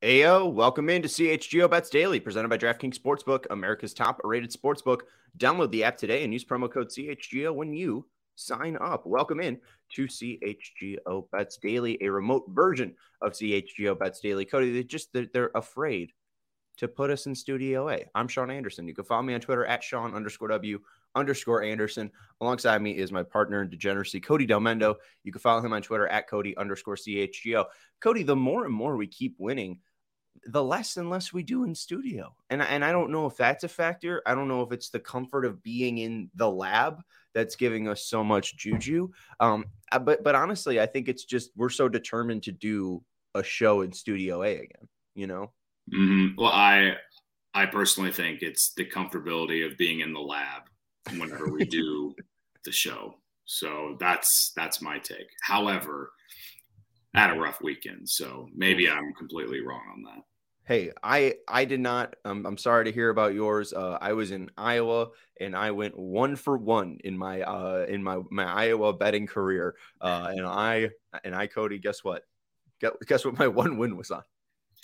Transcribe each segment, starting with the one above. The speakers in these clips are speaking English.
Ayo, welcome into CHGO Bets Daily, presented by DraftKings Sportsbook, America's top-rated sportsbook. Download the app today and use promo code CHGO when you sign up. Welcome in to CHGO Bets Daily, a remote version of CHGO Bets Daily. Cody, they're afraid to put us in Studio A. I'm Sean Anderson. You can follow me on Twitter at Sean_W_Anderson. Alongside me is my partner in degeneracy, Cody Delmendo. You can follow him on Twitter at Cody_CHGO. Cody, the more and more we keep winning, the less and less we do in studio. And I don't know if that's a factor. I don't know if it's the comfort of being in the lab that's giving us so much juju. But honestly, I think it's just we're so determined to do a show in Studio A again, you know? Mm-hmm. Well, I personally think it's the comfortability of being in the lab whenever we do the show. So that's my take. However, I had a rough weekend, so maybe I'm completely wrong on that. Hey, I did not. I'm sorry to hear about yours. I was in Iowa and I went 1 for 1 in my Iowa betting career. And I Cody, guess what? Guess what my one win was on?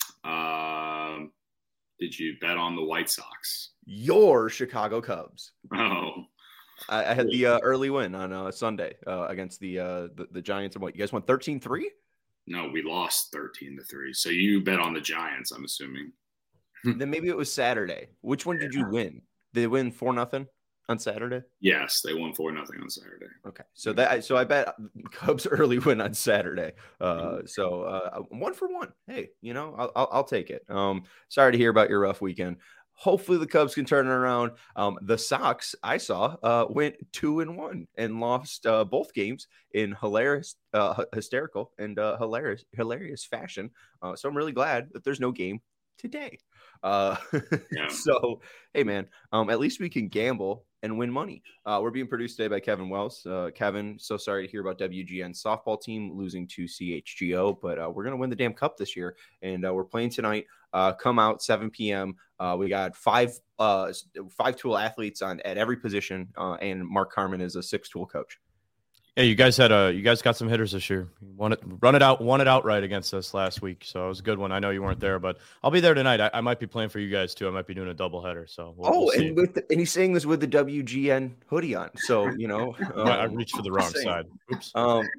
Did you bet on the White Sox? Your Chicago Cubs. Oh, I had the early win on Sunday against the Giants. And what, you guys won 13-3? No, we lost 13-3. So you bet on the Giants, I'm assuming. Then maybe it was Saturday. Which one did you win? Did they win 4-0 on Saturday? Yes, they won 4-0 on Saturday. Okay, so I bet Cubs early win on Saturday. 1 for 1. Hey, I'll take it. Sorry to hear about your rough weekend. Hopefully the Cubs can turn it around. The Sox, I saw, went 2-1 and lost both games in hysterical and hilarious fashion. So I'm really glad that there's no game today. So, hey, man, at least we can gamble and win money. We're being produced today by Kevin Wells. Kevin, so sorry to hear about WGN's softball team losing to CHGO, but we're going to win the damn cup this year, and we're playing tonight. Come out 7 p.m. We got five tool athletes at every position, and Mark Carmen is a 6-tool coach. Yeah, you guys got some hitters this year. Won it outright against us last week, so it was a good one. I know you weren't there, but I'll be there tonight. I might be playing for you guys too. I might be doing a doubleheader. So we'll see. And he's saying this with the WGN hoodie on. So I reached for the wrong side. Oops.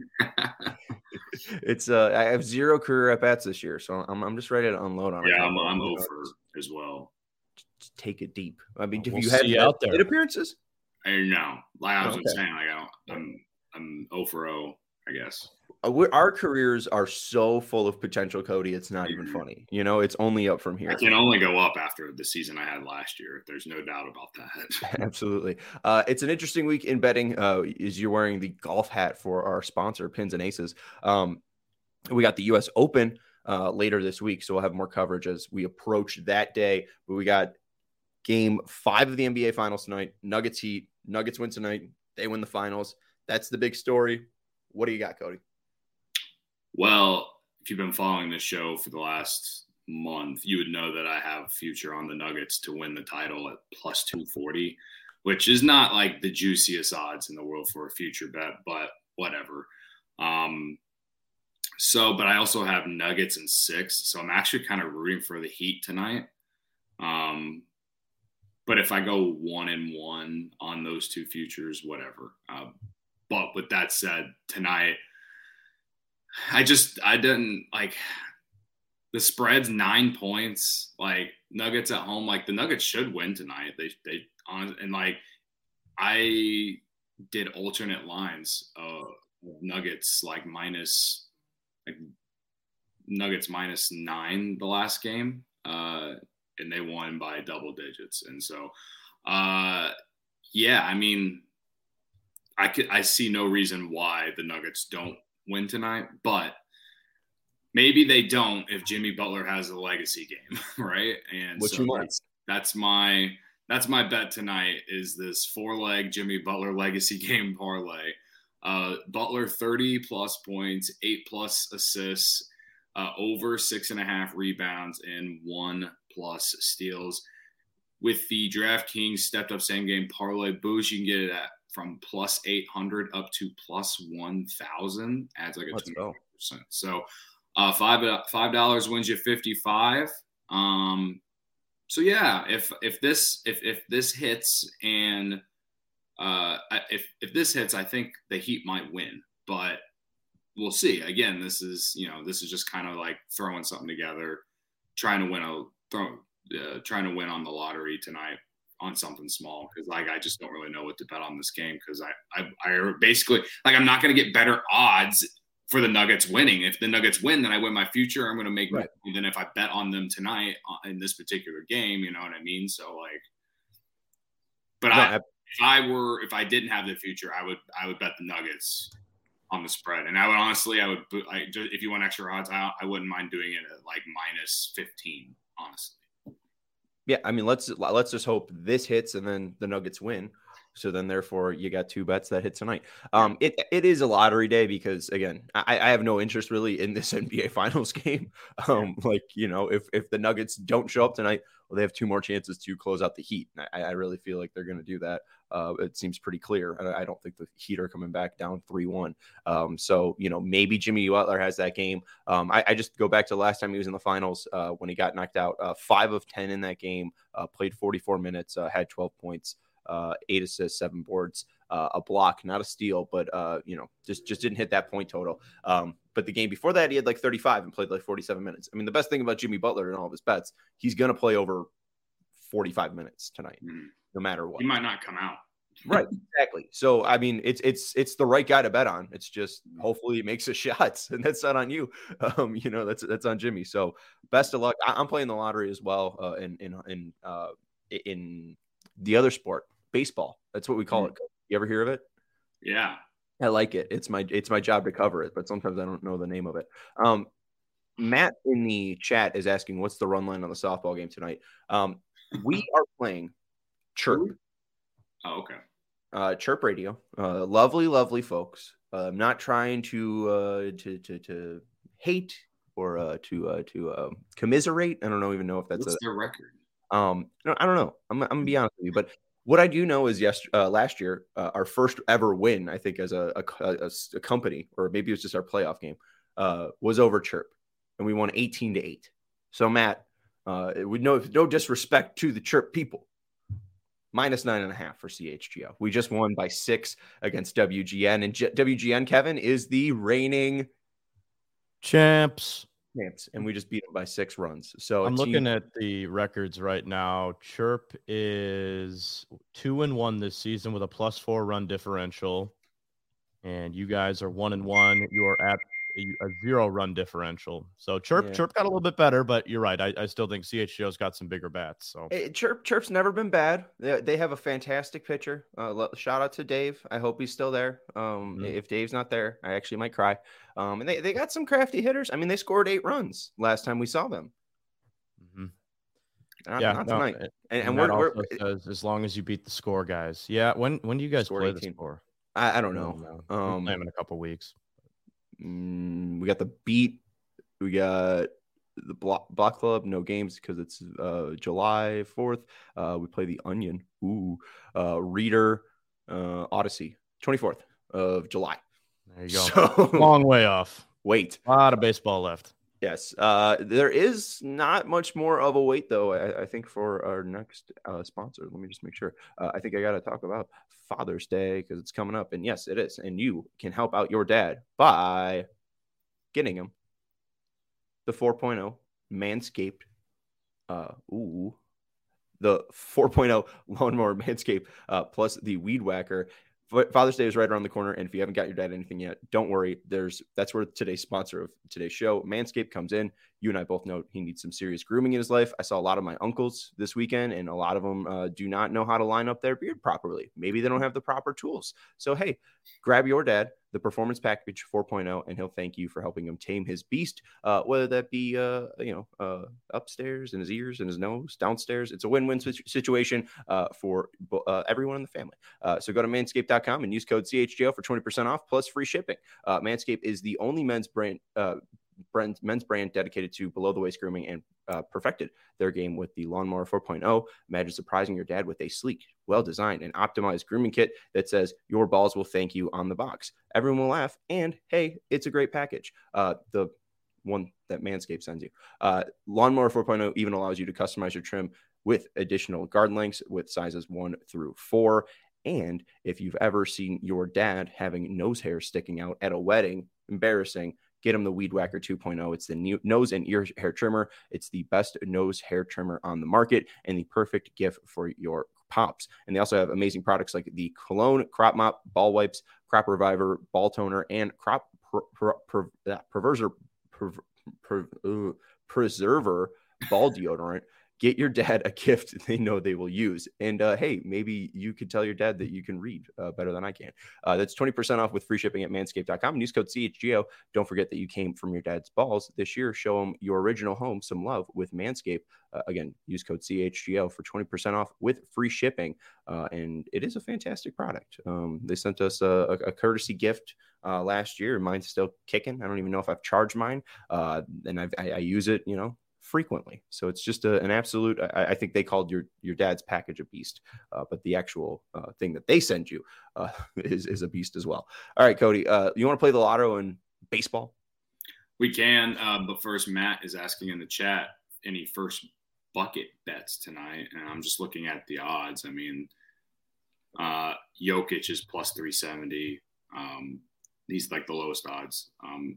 It's I have 0 career at bats this year, so I'm just ready to unload on it. Yeah, I'm over as well. Just take it deep. I mean, have we'll you had out there appearances? No, like I was saying, I'm 0-for-0, I guess. Our careers are so full of potential, Cody. It's not even funny. It's only up from here. I can only go up after the season I had last year. There's no doubt about that. Absolutely. It's an interesting week in betting. Is you're wearing the golf hat for our sponsor, Pins and Aces. We got the U.S. Open later this week, so we'll have more coverage as we approach that day. But we got Game 5 of the NBA Finals tonight. Nuggets Heat. Nuggets win tonight. They win the finals. That's the big story. What do you got, Cody? Well, if you've been following this show for the last month, you would know that I have future on the Nuggets to win the title at plus 240, which is not like the juiciest odds in the world for a future bet, but whatever. But I also have Nuggets in 6, so I'm actually kind of rooting for the Heat tonight. But if I go 1-1 on those two futures, whatever. But with that said, tonight, I didn't like the spread's 9 points. Like Nuggets at home, like the Nuggets should win tonight. They and like I did alternate lines of Nuggets Nuggets -9 the last game, and they won by double digits. And so, yeah, I mean, I see no reason why the Nuggets don't win tonight, but maybe they don't if Jimmy Butler has a legacy game, right? And Which so that's my bet tonight is this 4-leg Jimmy Butler legacy game parlay. Butler 30+ points, 8+ assists, over 6.5 rebounds, and 1+ steals. With the DraftKings stepped up same game parlay boost, you can get it at from +800 up to +1,000. Adds like a 20%. So $5 wins you 55. So yeah, if this hits and if this hits, I think the Heat might win, but we'll see. Again, this is just kind of like throwing something together, trying to win on the lottery tonight on something small, because like I just don't really know what to bet on this game, because I basically, like, I'm not going to get better odds for the Nuggets winning. If the Nuggets win, then I win my future. I'm going to make more than if I bet on them tonight in this particular game. You know what I memean? So like, but if I didn't have the future, I would bet the Nuggets on the spread. And I would honestly, if you want extra odds, I wouldn't mind doing it at like -15, honestly. Yeah, I mean, let's just hope this hits and then the Nuggets win. So then, therefore, you got two bets that hit tonight. It is a lottery day because, again, I have no interest really in this NBA Finals game. If the Nuggets don't show up tonight, well, they have two more chances to close out the Heat. I really feel like they're going to do that. It seems pretty clear. I don't think the Heat are coming back down 3-1. So, maybe Jimmy Butler has that game. I just go back to the last time he was in the finals when he got knocked out. 5 of 10 in that game, played 44 minutes, had 12 points. 8 assists, 7 boards, a block, not a steal, but just didn't hit that point total. But the game before that, he had like 35 and played like 47 minutes. I mean, the best thing about Jimmy Butler and all of his bets, he's going to play over 45 minutes tonight, no matter what. He might not come out. Right, exactly. So, I mean, it's the right guy to bet on. It's just hopefully he makes his shots, and that's not on you. That's on Jimmy. So, best of luck. I'm playing the lottery as well in the other sport. Baseball. That's what we call it. You ever hear of it? Yeah. I like it. It's my job to cover it, but sometimes I don't know the name of it. Matt in the chat is asking, what's the run line on the softball game tonight? We are playing Chirp. Oh, okay. Chirp Radio. Lovely folks. I'm not trying to hate or to commiserate. I don't even know if that's their record. No, I don't know. I'm gonna be honest with you, but what I do know is last year, our first ever win, I think, as a company, or maybe it was just our playoff game, was over Chirp, and we won 18-8. So Matt, with no disrespect to the Chirp people, -9.5 for CHGO. We just won by 6 against WGN, and WGN, Kevin, is the reigning champs, and we just beat them by 6 runs. So I'm looking at the records right now. Chirp is 2-1 this season with a +4 run differential, and you guys are 1-1. You are at a 0 run differential. So Chirp got a little bit better, but you're right. I still think CHGO's got some bigger bats. So Chirp's never been bad. They have a fantastic pitcher. Shout out to Dave. I hope he's still there. If Dave's not there, I actually might cry. And they got some crafty hitters. I mean, they scored 8 runs last time we saw them. Not tonight. And we're says, as long as you beat the score, guys. Yeah. When do you guys play 18. the score? I don't know. We'll play them in a couple weeks. We got the Beat. We got the Block Club. No games because it's July 4th. We play the Onion. Reader, Odyssey. 24th of July. There you go. So, long way off. Wait. A lot of baseball left. Yes. There is not much more of a wait, though, I think, for our next sponsor. Let me just make sure. I think I got to talk about Father's Day because it's coming up. And yes, it is. And you can help out your dad by getting him the 4.0 Manscaped. The 4.0 Lawnmower Manscaped plus the Weed Whacker. Father's Day is right around the corner, and if you haven't got your dad anything yet, don't worry. That's where today's sponsor of today's show, Manscaped, comes in. You and I both know he needs some serious grooming in his life. I saw a lot of my uncles this weekend, and a lot of them do not know how to line up their beard properly. Maybe they don't have the proper tools. So, hey, grab your dad the Performance Package 4.0, and he'll thank you for helping him tame his beast, whether that be, upstairs in his ears and his nose, downstairs. It's a win-win situation for everyone in the family. So go to manscaped.com and use code CHGO for 20% off plus free shipping. Manscaped is the only men's brand dedicated to below-the-waist grooming and perfected their game with the Lawnmower 4.0. Imagine surprising your dad with a sleek, well-designed, and optimized grooming kit that says your balls will thank you on the box. Everyone will laugh, and hey, it's a great package. The one that Manscaped sends you. Lawnmower 4.0 even allows you to customize your trim with additional guard lengths with sizes 1 through 4. And if you've ever seen your dad having nose hair sticking out at a wedding, embarrassing, get him the Weed Whacker 2.0. It's the new nose and ear hair trimmer. It's the best nose hair trimmer on the market and the perfect gift for your pops. And they also have amazing products like the Cologne Crop Mop, Ball Wipes, Crop Reviver, Ball Toner, and Crop Preserver Ball Deodorant. Get your dad a gift they know they will use. And hey, maybe you could tell your dad that you can read better than I can. That's 20% off with free shipping at manscaped.com. And use code CHGO. Don't forget that you came from your dad's balls this year. Show them your original home some love with Manscaped. Again, use code CHGO for 20% off with free shipping. And it is a fantastic product. They sent us a courtesy gift last year. Mine's still kicking. I don't even know if I've charged mine. And I use it, frequently. So it's just an absolute, I think they called your dad's package a beast, but the actual thing that they send you is a beast as well. All right, Cody, you want to play the lotto and baseball? We can, but first, Matt is asking in the chat, any first bucket bets tonight? And I'm just looking at the odds. I mean, Jokic is plus 370. He's like the lowest odds.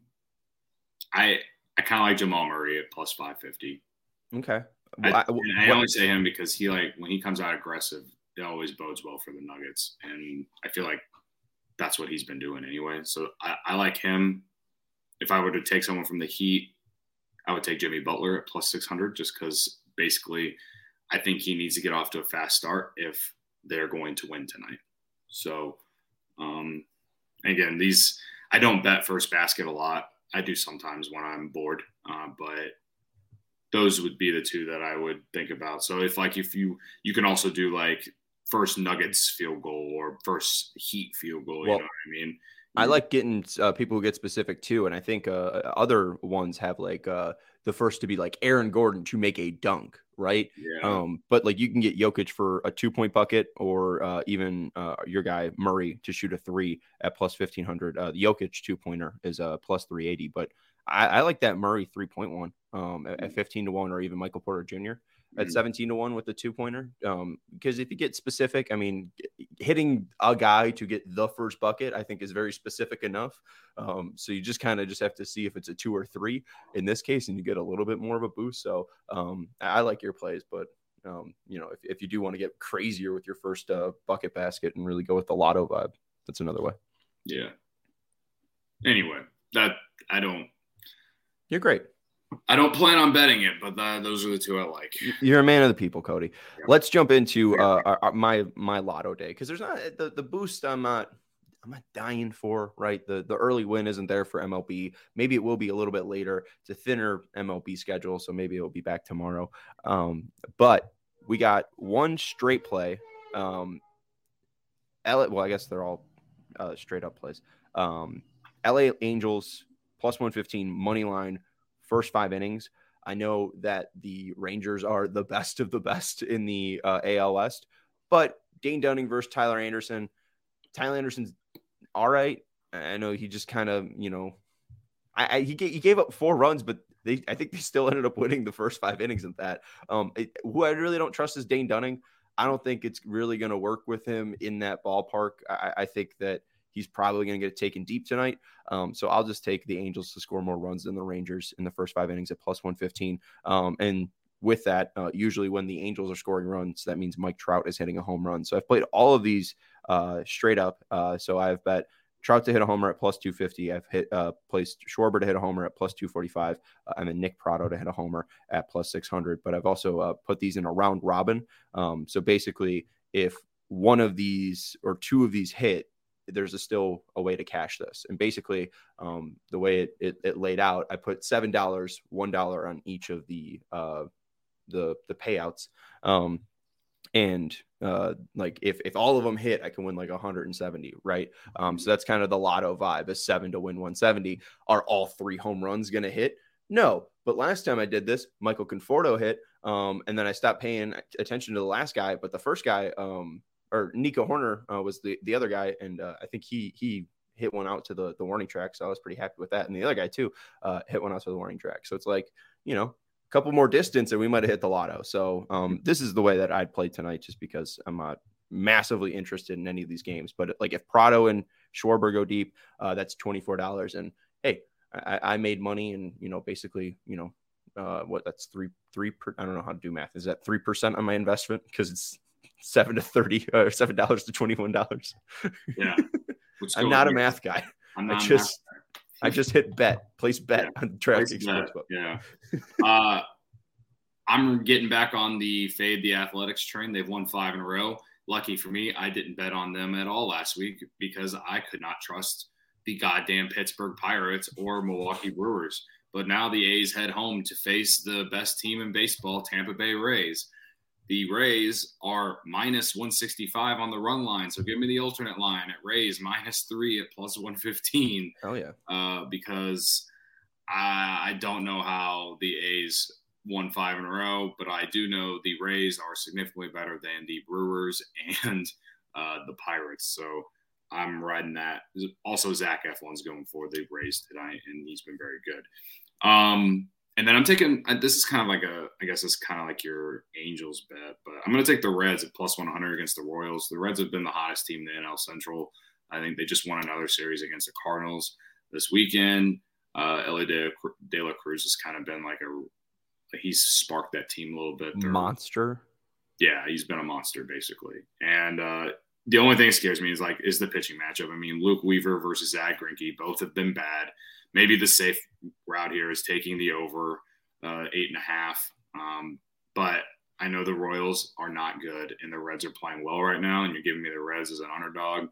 I kind of like Jamal Murray at plus 550. Okay. I only say him because he, like, when he comes out aggressive, it always bodes well for the Nuggets. And I feel like that's what he's been doing anyway. So I like him. If I were to take someone from the Heat, I would take Jimmy Butler at plus 600 just because basically I think he needs to get off to a fast start if they're going to win tonight. So, again, I don't bet first basket a lot. I do sometimes when I'm bored, but those would be the two that I would think about. So if you can also do like first Nuggets field goal or first Heat field goal, you know what I mean? I like getting people who get specific too. And I think other ones have like the first to be like Aaron Gordon to make a dunk, right? Yeah. But like you can get Jokic for a 2-point bucket or even your guy Murray to shoot a 3 at plus 1,500. The Jokic 2-pointer is plus 380. But I like that Murray 3.1 at 15 to 1 or even Michael Porter Jr. at 17 to 1 with the 2-pointer. Because if you get specific, I mean, hitting a guy to get the first bucket, I think is very specific enough. So you just kind of have to see if it's a 2 or 3 in this case, and you get a little bit more of a boost. So I like your plays, but if you do want to get crazier with your first bucket basket and really go with the lotto vibe, that's another way. Yeah. Anyway, You're great. I don't plan on betting it, but those are the two I like. You're a man of the people, Cody. Yeah. Let's jump into my lotto day because there's not the boost. I'm not dying for, right? The early win isn't there for MLB. Maybe it will be a little bit later. It's a thinner MLB schedule, so maybe it'll be back tomorrow. But we got one straight play. I guess they're all straight up plays. LA Angels plus 115 money line. First 5 innings. I know that the Rangers are the best of the best in the AL West, but Dane Dunning versus Tyler Anderson. Tyler Anderson's all right. I know he just kind of, he gave up 4 runs, but I think they still ended up winning the first 5 innings of that. Who I really don't trust is Dane Dunning. I don't think it's really going to work with him in that ballpark. I think that he's probably going to get taken deep tonight. So I'll just take the Angels to score more runs than the Rangers in the first 5 innings at plus 115. And with that, usually when the Angels are scoring runs, that means Mike Trout is hitting a home run. So I've played all of these straight up. So I've bet Trout to hit a homer at plus 250. I've placed Schwarber to hit a homer at plus 245. And then Nick Pratto to hit a homer at plus 600. But I've also put these in a round robin. So basically, if one of these or 2 of these hit, there's still a way to cash this. And basically the way it laid out, I put $7, $1 on each of the payouts. Like if all of them hit, I can win like 170. Right. So that's kind of the lotto vibe is 7 to win 170. Are all 3 home runs going to hit? No. But last time I did this, Michael Conforto hit. And then I stopped paying attention to the last guy, but the first guy, or Nico Horner was the other guy. And I think he hit one out to the warning track. So I was pretty happy with that. And the other guy too hit one out to the warning track. So it's like, a couple more distance and we might have hit the lotto. So this is the way that I'd play tonight, just because I'm not massively interested in any of these games. But like if Prado and Schwarber go deep, that's $24. And hey, I made money, and basically, that's three I don't know how to do math. Is that 3% on my investment? Because it's $7 to $30 or $7 to $21. Yeah. I'm not a math guy. I just hit place bet on DraftKings Sportsbook. Yeah. I'm getting back on the Fade the Athletics train. They've won 5 in a row. Lucky for me, I didn't bet on them at all last week because I could not trust the goddamn Pittsburgh Pirates or Milwaukee Brewers. But now the A's head home to face the best team in baseball, Tampa Bay Rays. The Rays are minus 165 on the run line. So give me the alternate line at Rays -3 at plus 115. Oh, yeah. Because I don't know how the A's won 5 in a row, but I do know the Rays are significantly better than the Brewers and the Pirates. So I'm riding that. Also, Zach Eflin's going for the Rays tonight, and he's been very good. And then I'm taking – this is kind of like I guess it's kind of like your Angels bet, but I'm going to take the Reds at plus 100 against the Royals. The Reds have been the hottest team in the NL Central. I think they just won another series against the Cardinals this weekend. Ellie De La Cruz has kind of been like he's sparked that team a little bit. Monster. Yeah, he's been a monster basically. And the only thing that scares me is the pitching matchup. I mean, Luke Weaver versus Zach Greinke, both have been bad. Maybe the safe route here is taking the over 8.5. But I know the Royals are not good and the Reds are playing well right now. And you're giving me the Reds as an underdog.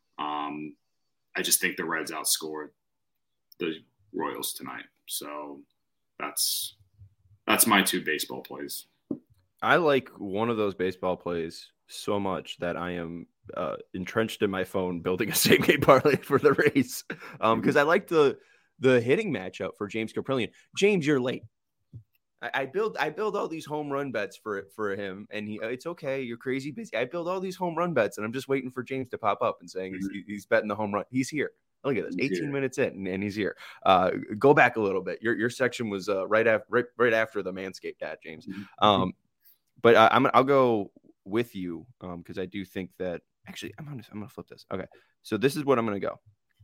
I just think the Reds outscored the Royals tonight. So that's my 2 baseball plays. I like one of those baseball plays so much that I am entrenched in my phone building a same game parlay for the Rays because I like the hitting matchup for James Kaprielian. James, you're late. I build all these home run bets for him, and it's okay. You're crazy busy. I build all these home run bets, and I'm just waiting for James to pop up and saying he's betting the home run. He's here. Look at this, 18 minutes in, and he's here. Go back a little bit. Your section was right after the Manscaped ad, James. But I'll go with you because I do think that actually I'm gonna flip this. Okay, so this is what I'm gonna go.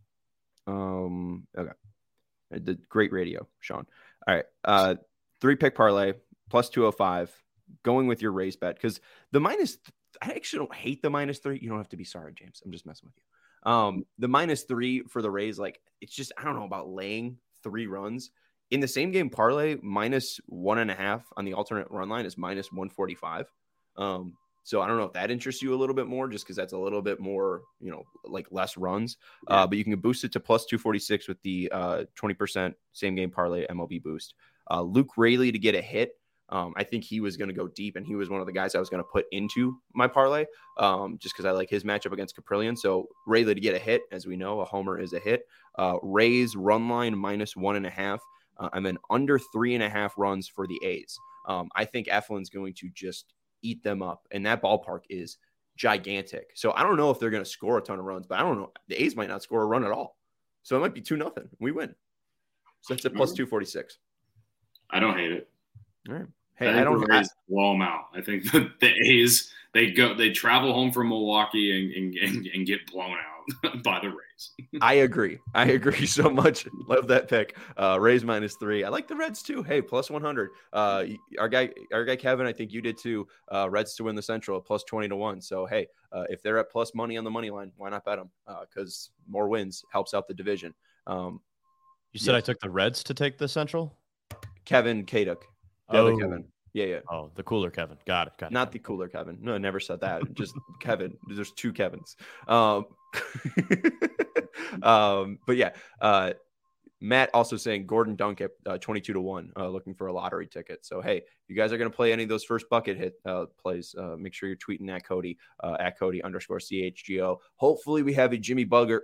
Okay, the great radio, Sean. All right, 3-pick parlay plus 205. Going with your Rays bet because the minus. I actually don't hate the -3. You don't have to be sorry, James. I'm just messing with you. The -3 for the Rays, like it's just I don't know about laying 3 runs in the same game parlay. -1.5 on the alternate run line is -145. So I don't know if that interests you a little bit more, just because that's a little bit more, like less runs. But you can boost it to plus 246 with the 20% same game parlay MLB boost. Luke Raley to get a hit. I think he was going to go deep, and he was one of the guys I was going to put into my parlay just because I like his matchup against Kaprielian. So Raley to get a hit, as we know, a homer is a hit. Rays run line -1.5, and then under 3.5 runs for the A's. I think Eflin's going to just eat them up, and that ballpark is gigantic. So I don't know if they're going to score a ton of runs, but I don't know. The A's might not score a run at all. So it might be 2-0. We win. So that's a plus 246. I don't hate it. All right. Hey, I don't blow them out. I think the A's they travel home from Milwaukee and get blown out by the Rays. I agree so much. Love that pick. Rays -3. I like the Reds too. Hey, plus 100. Our guy Kevin, I think you did too. Reds to win the Central at plus 20 to 1. So hey, if they're at plus money on the money line, why not bet them? Because more wins helps out the division. You said I took the Reds to take the Central. Kevin Kaduk. The other Kevin. Yeah. Oh, the cooler Kevin. Got it. Not the cooler Kevin. No, I never said that. Just Kevin. There's 2 Kevins. But yeah, Matt also saying Gordon Dunk at 22 to 1, looking for a lottery ticket. So, hey, if you guys are going to play any of those first bucket hit plays, make sure you're tweeting at Cody @Cody_CHGO. Hopefully we have a Jimmy Butler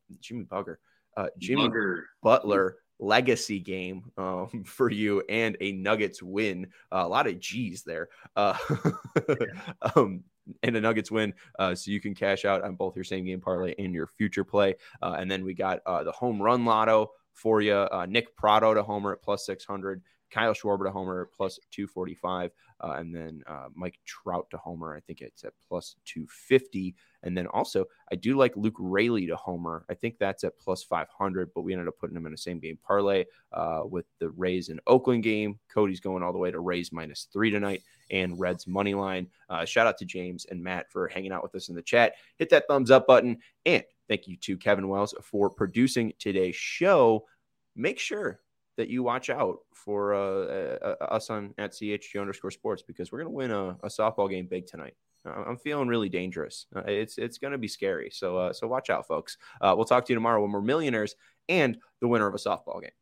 legacy game for you and a Nuggets win. A lot of G's there. and the Nuggets win. So you can cash out on both your same game parlay and your future play. And then we got the home run lotto for you. Nick Pratto to homer at plus 600. Kyle Schwarber to homer at plus 245. And then Mike Trout to homer. I think it's at plus 250. And then also, I do like Luke Raley to homer. I think that's at plus 500, but we ended up putting him in a same game parlay with the Rays and Oakland game. Cody's going all the way to Rays -3 tonight and Reds money line. Shout out to James and Matt for hanging out with us in the chat. Hit that thumbs up button. And thank you to Kevin Wells for producing today's show. Make sure that you watch out for us on at CHG_sports, because we're going to win a softball game big tonight. I'm feeling really dangerous. It's going to be scary. So watch out, folks. We'll talk to you tomorrow when we're millionaires and the winner of a softball game.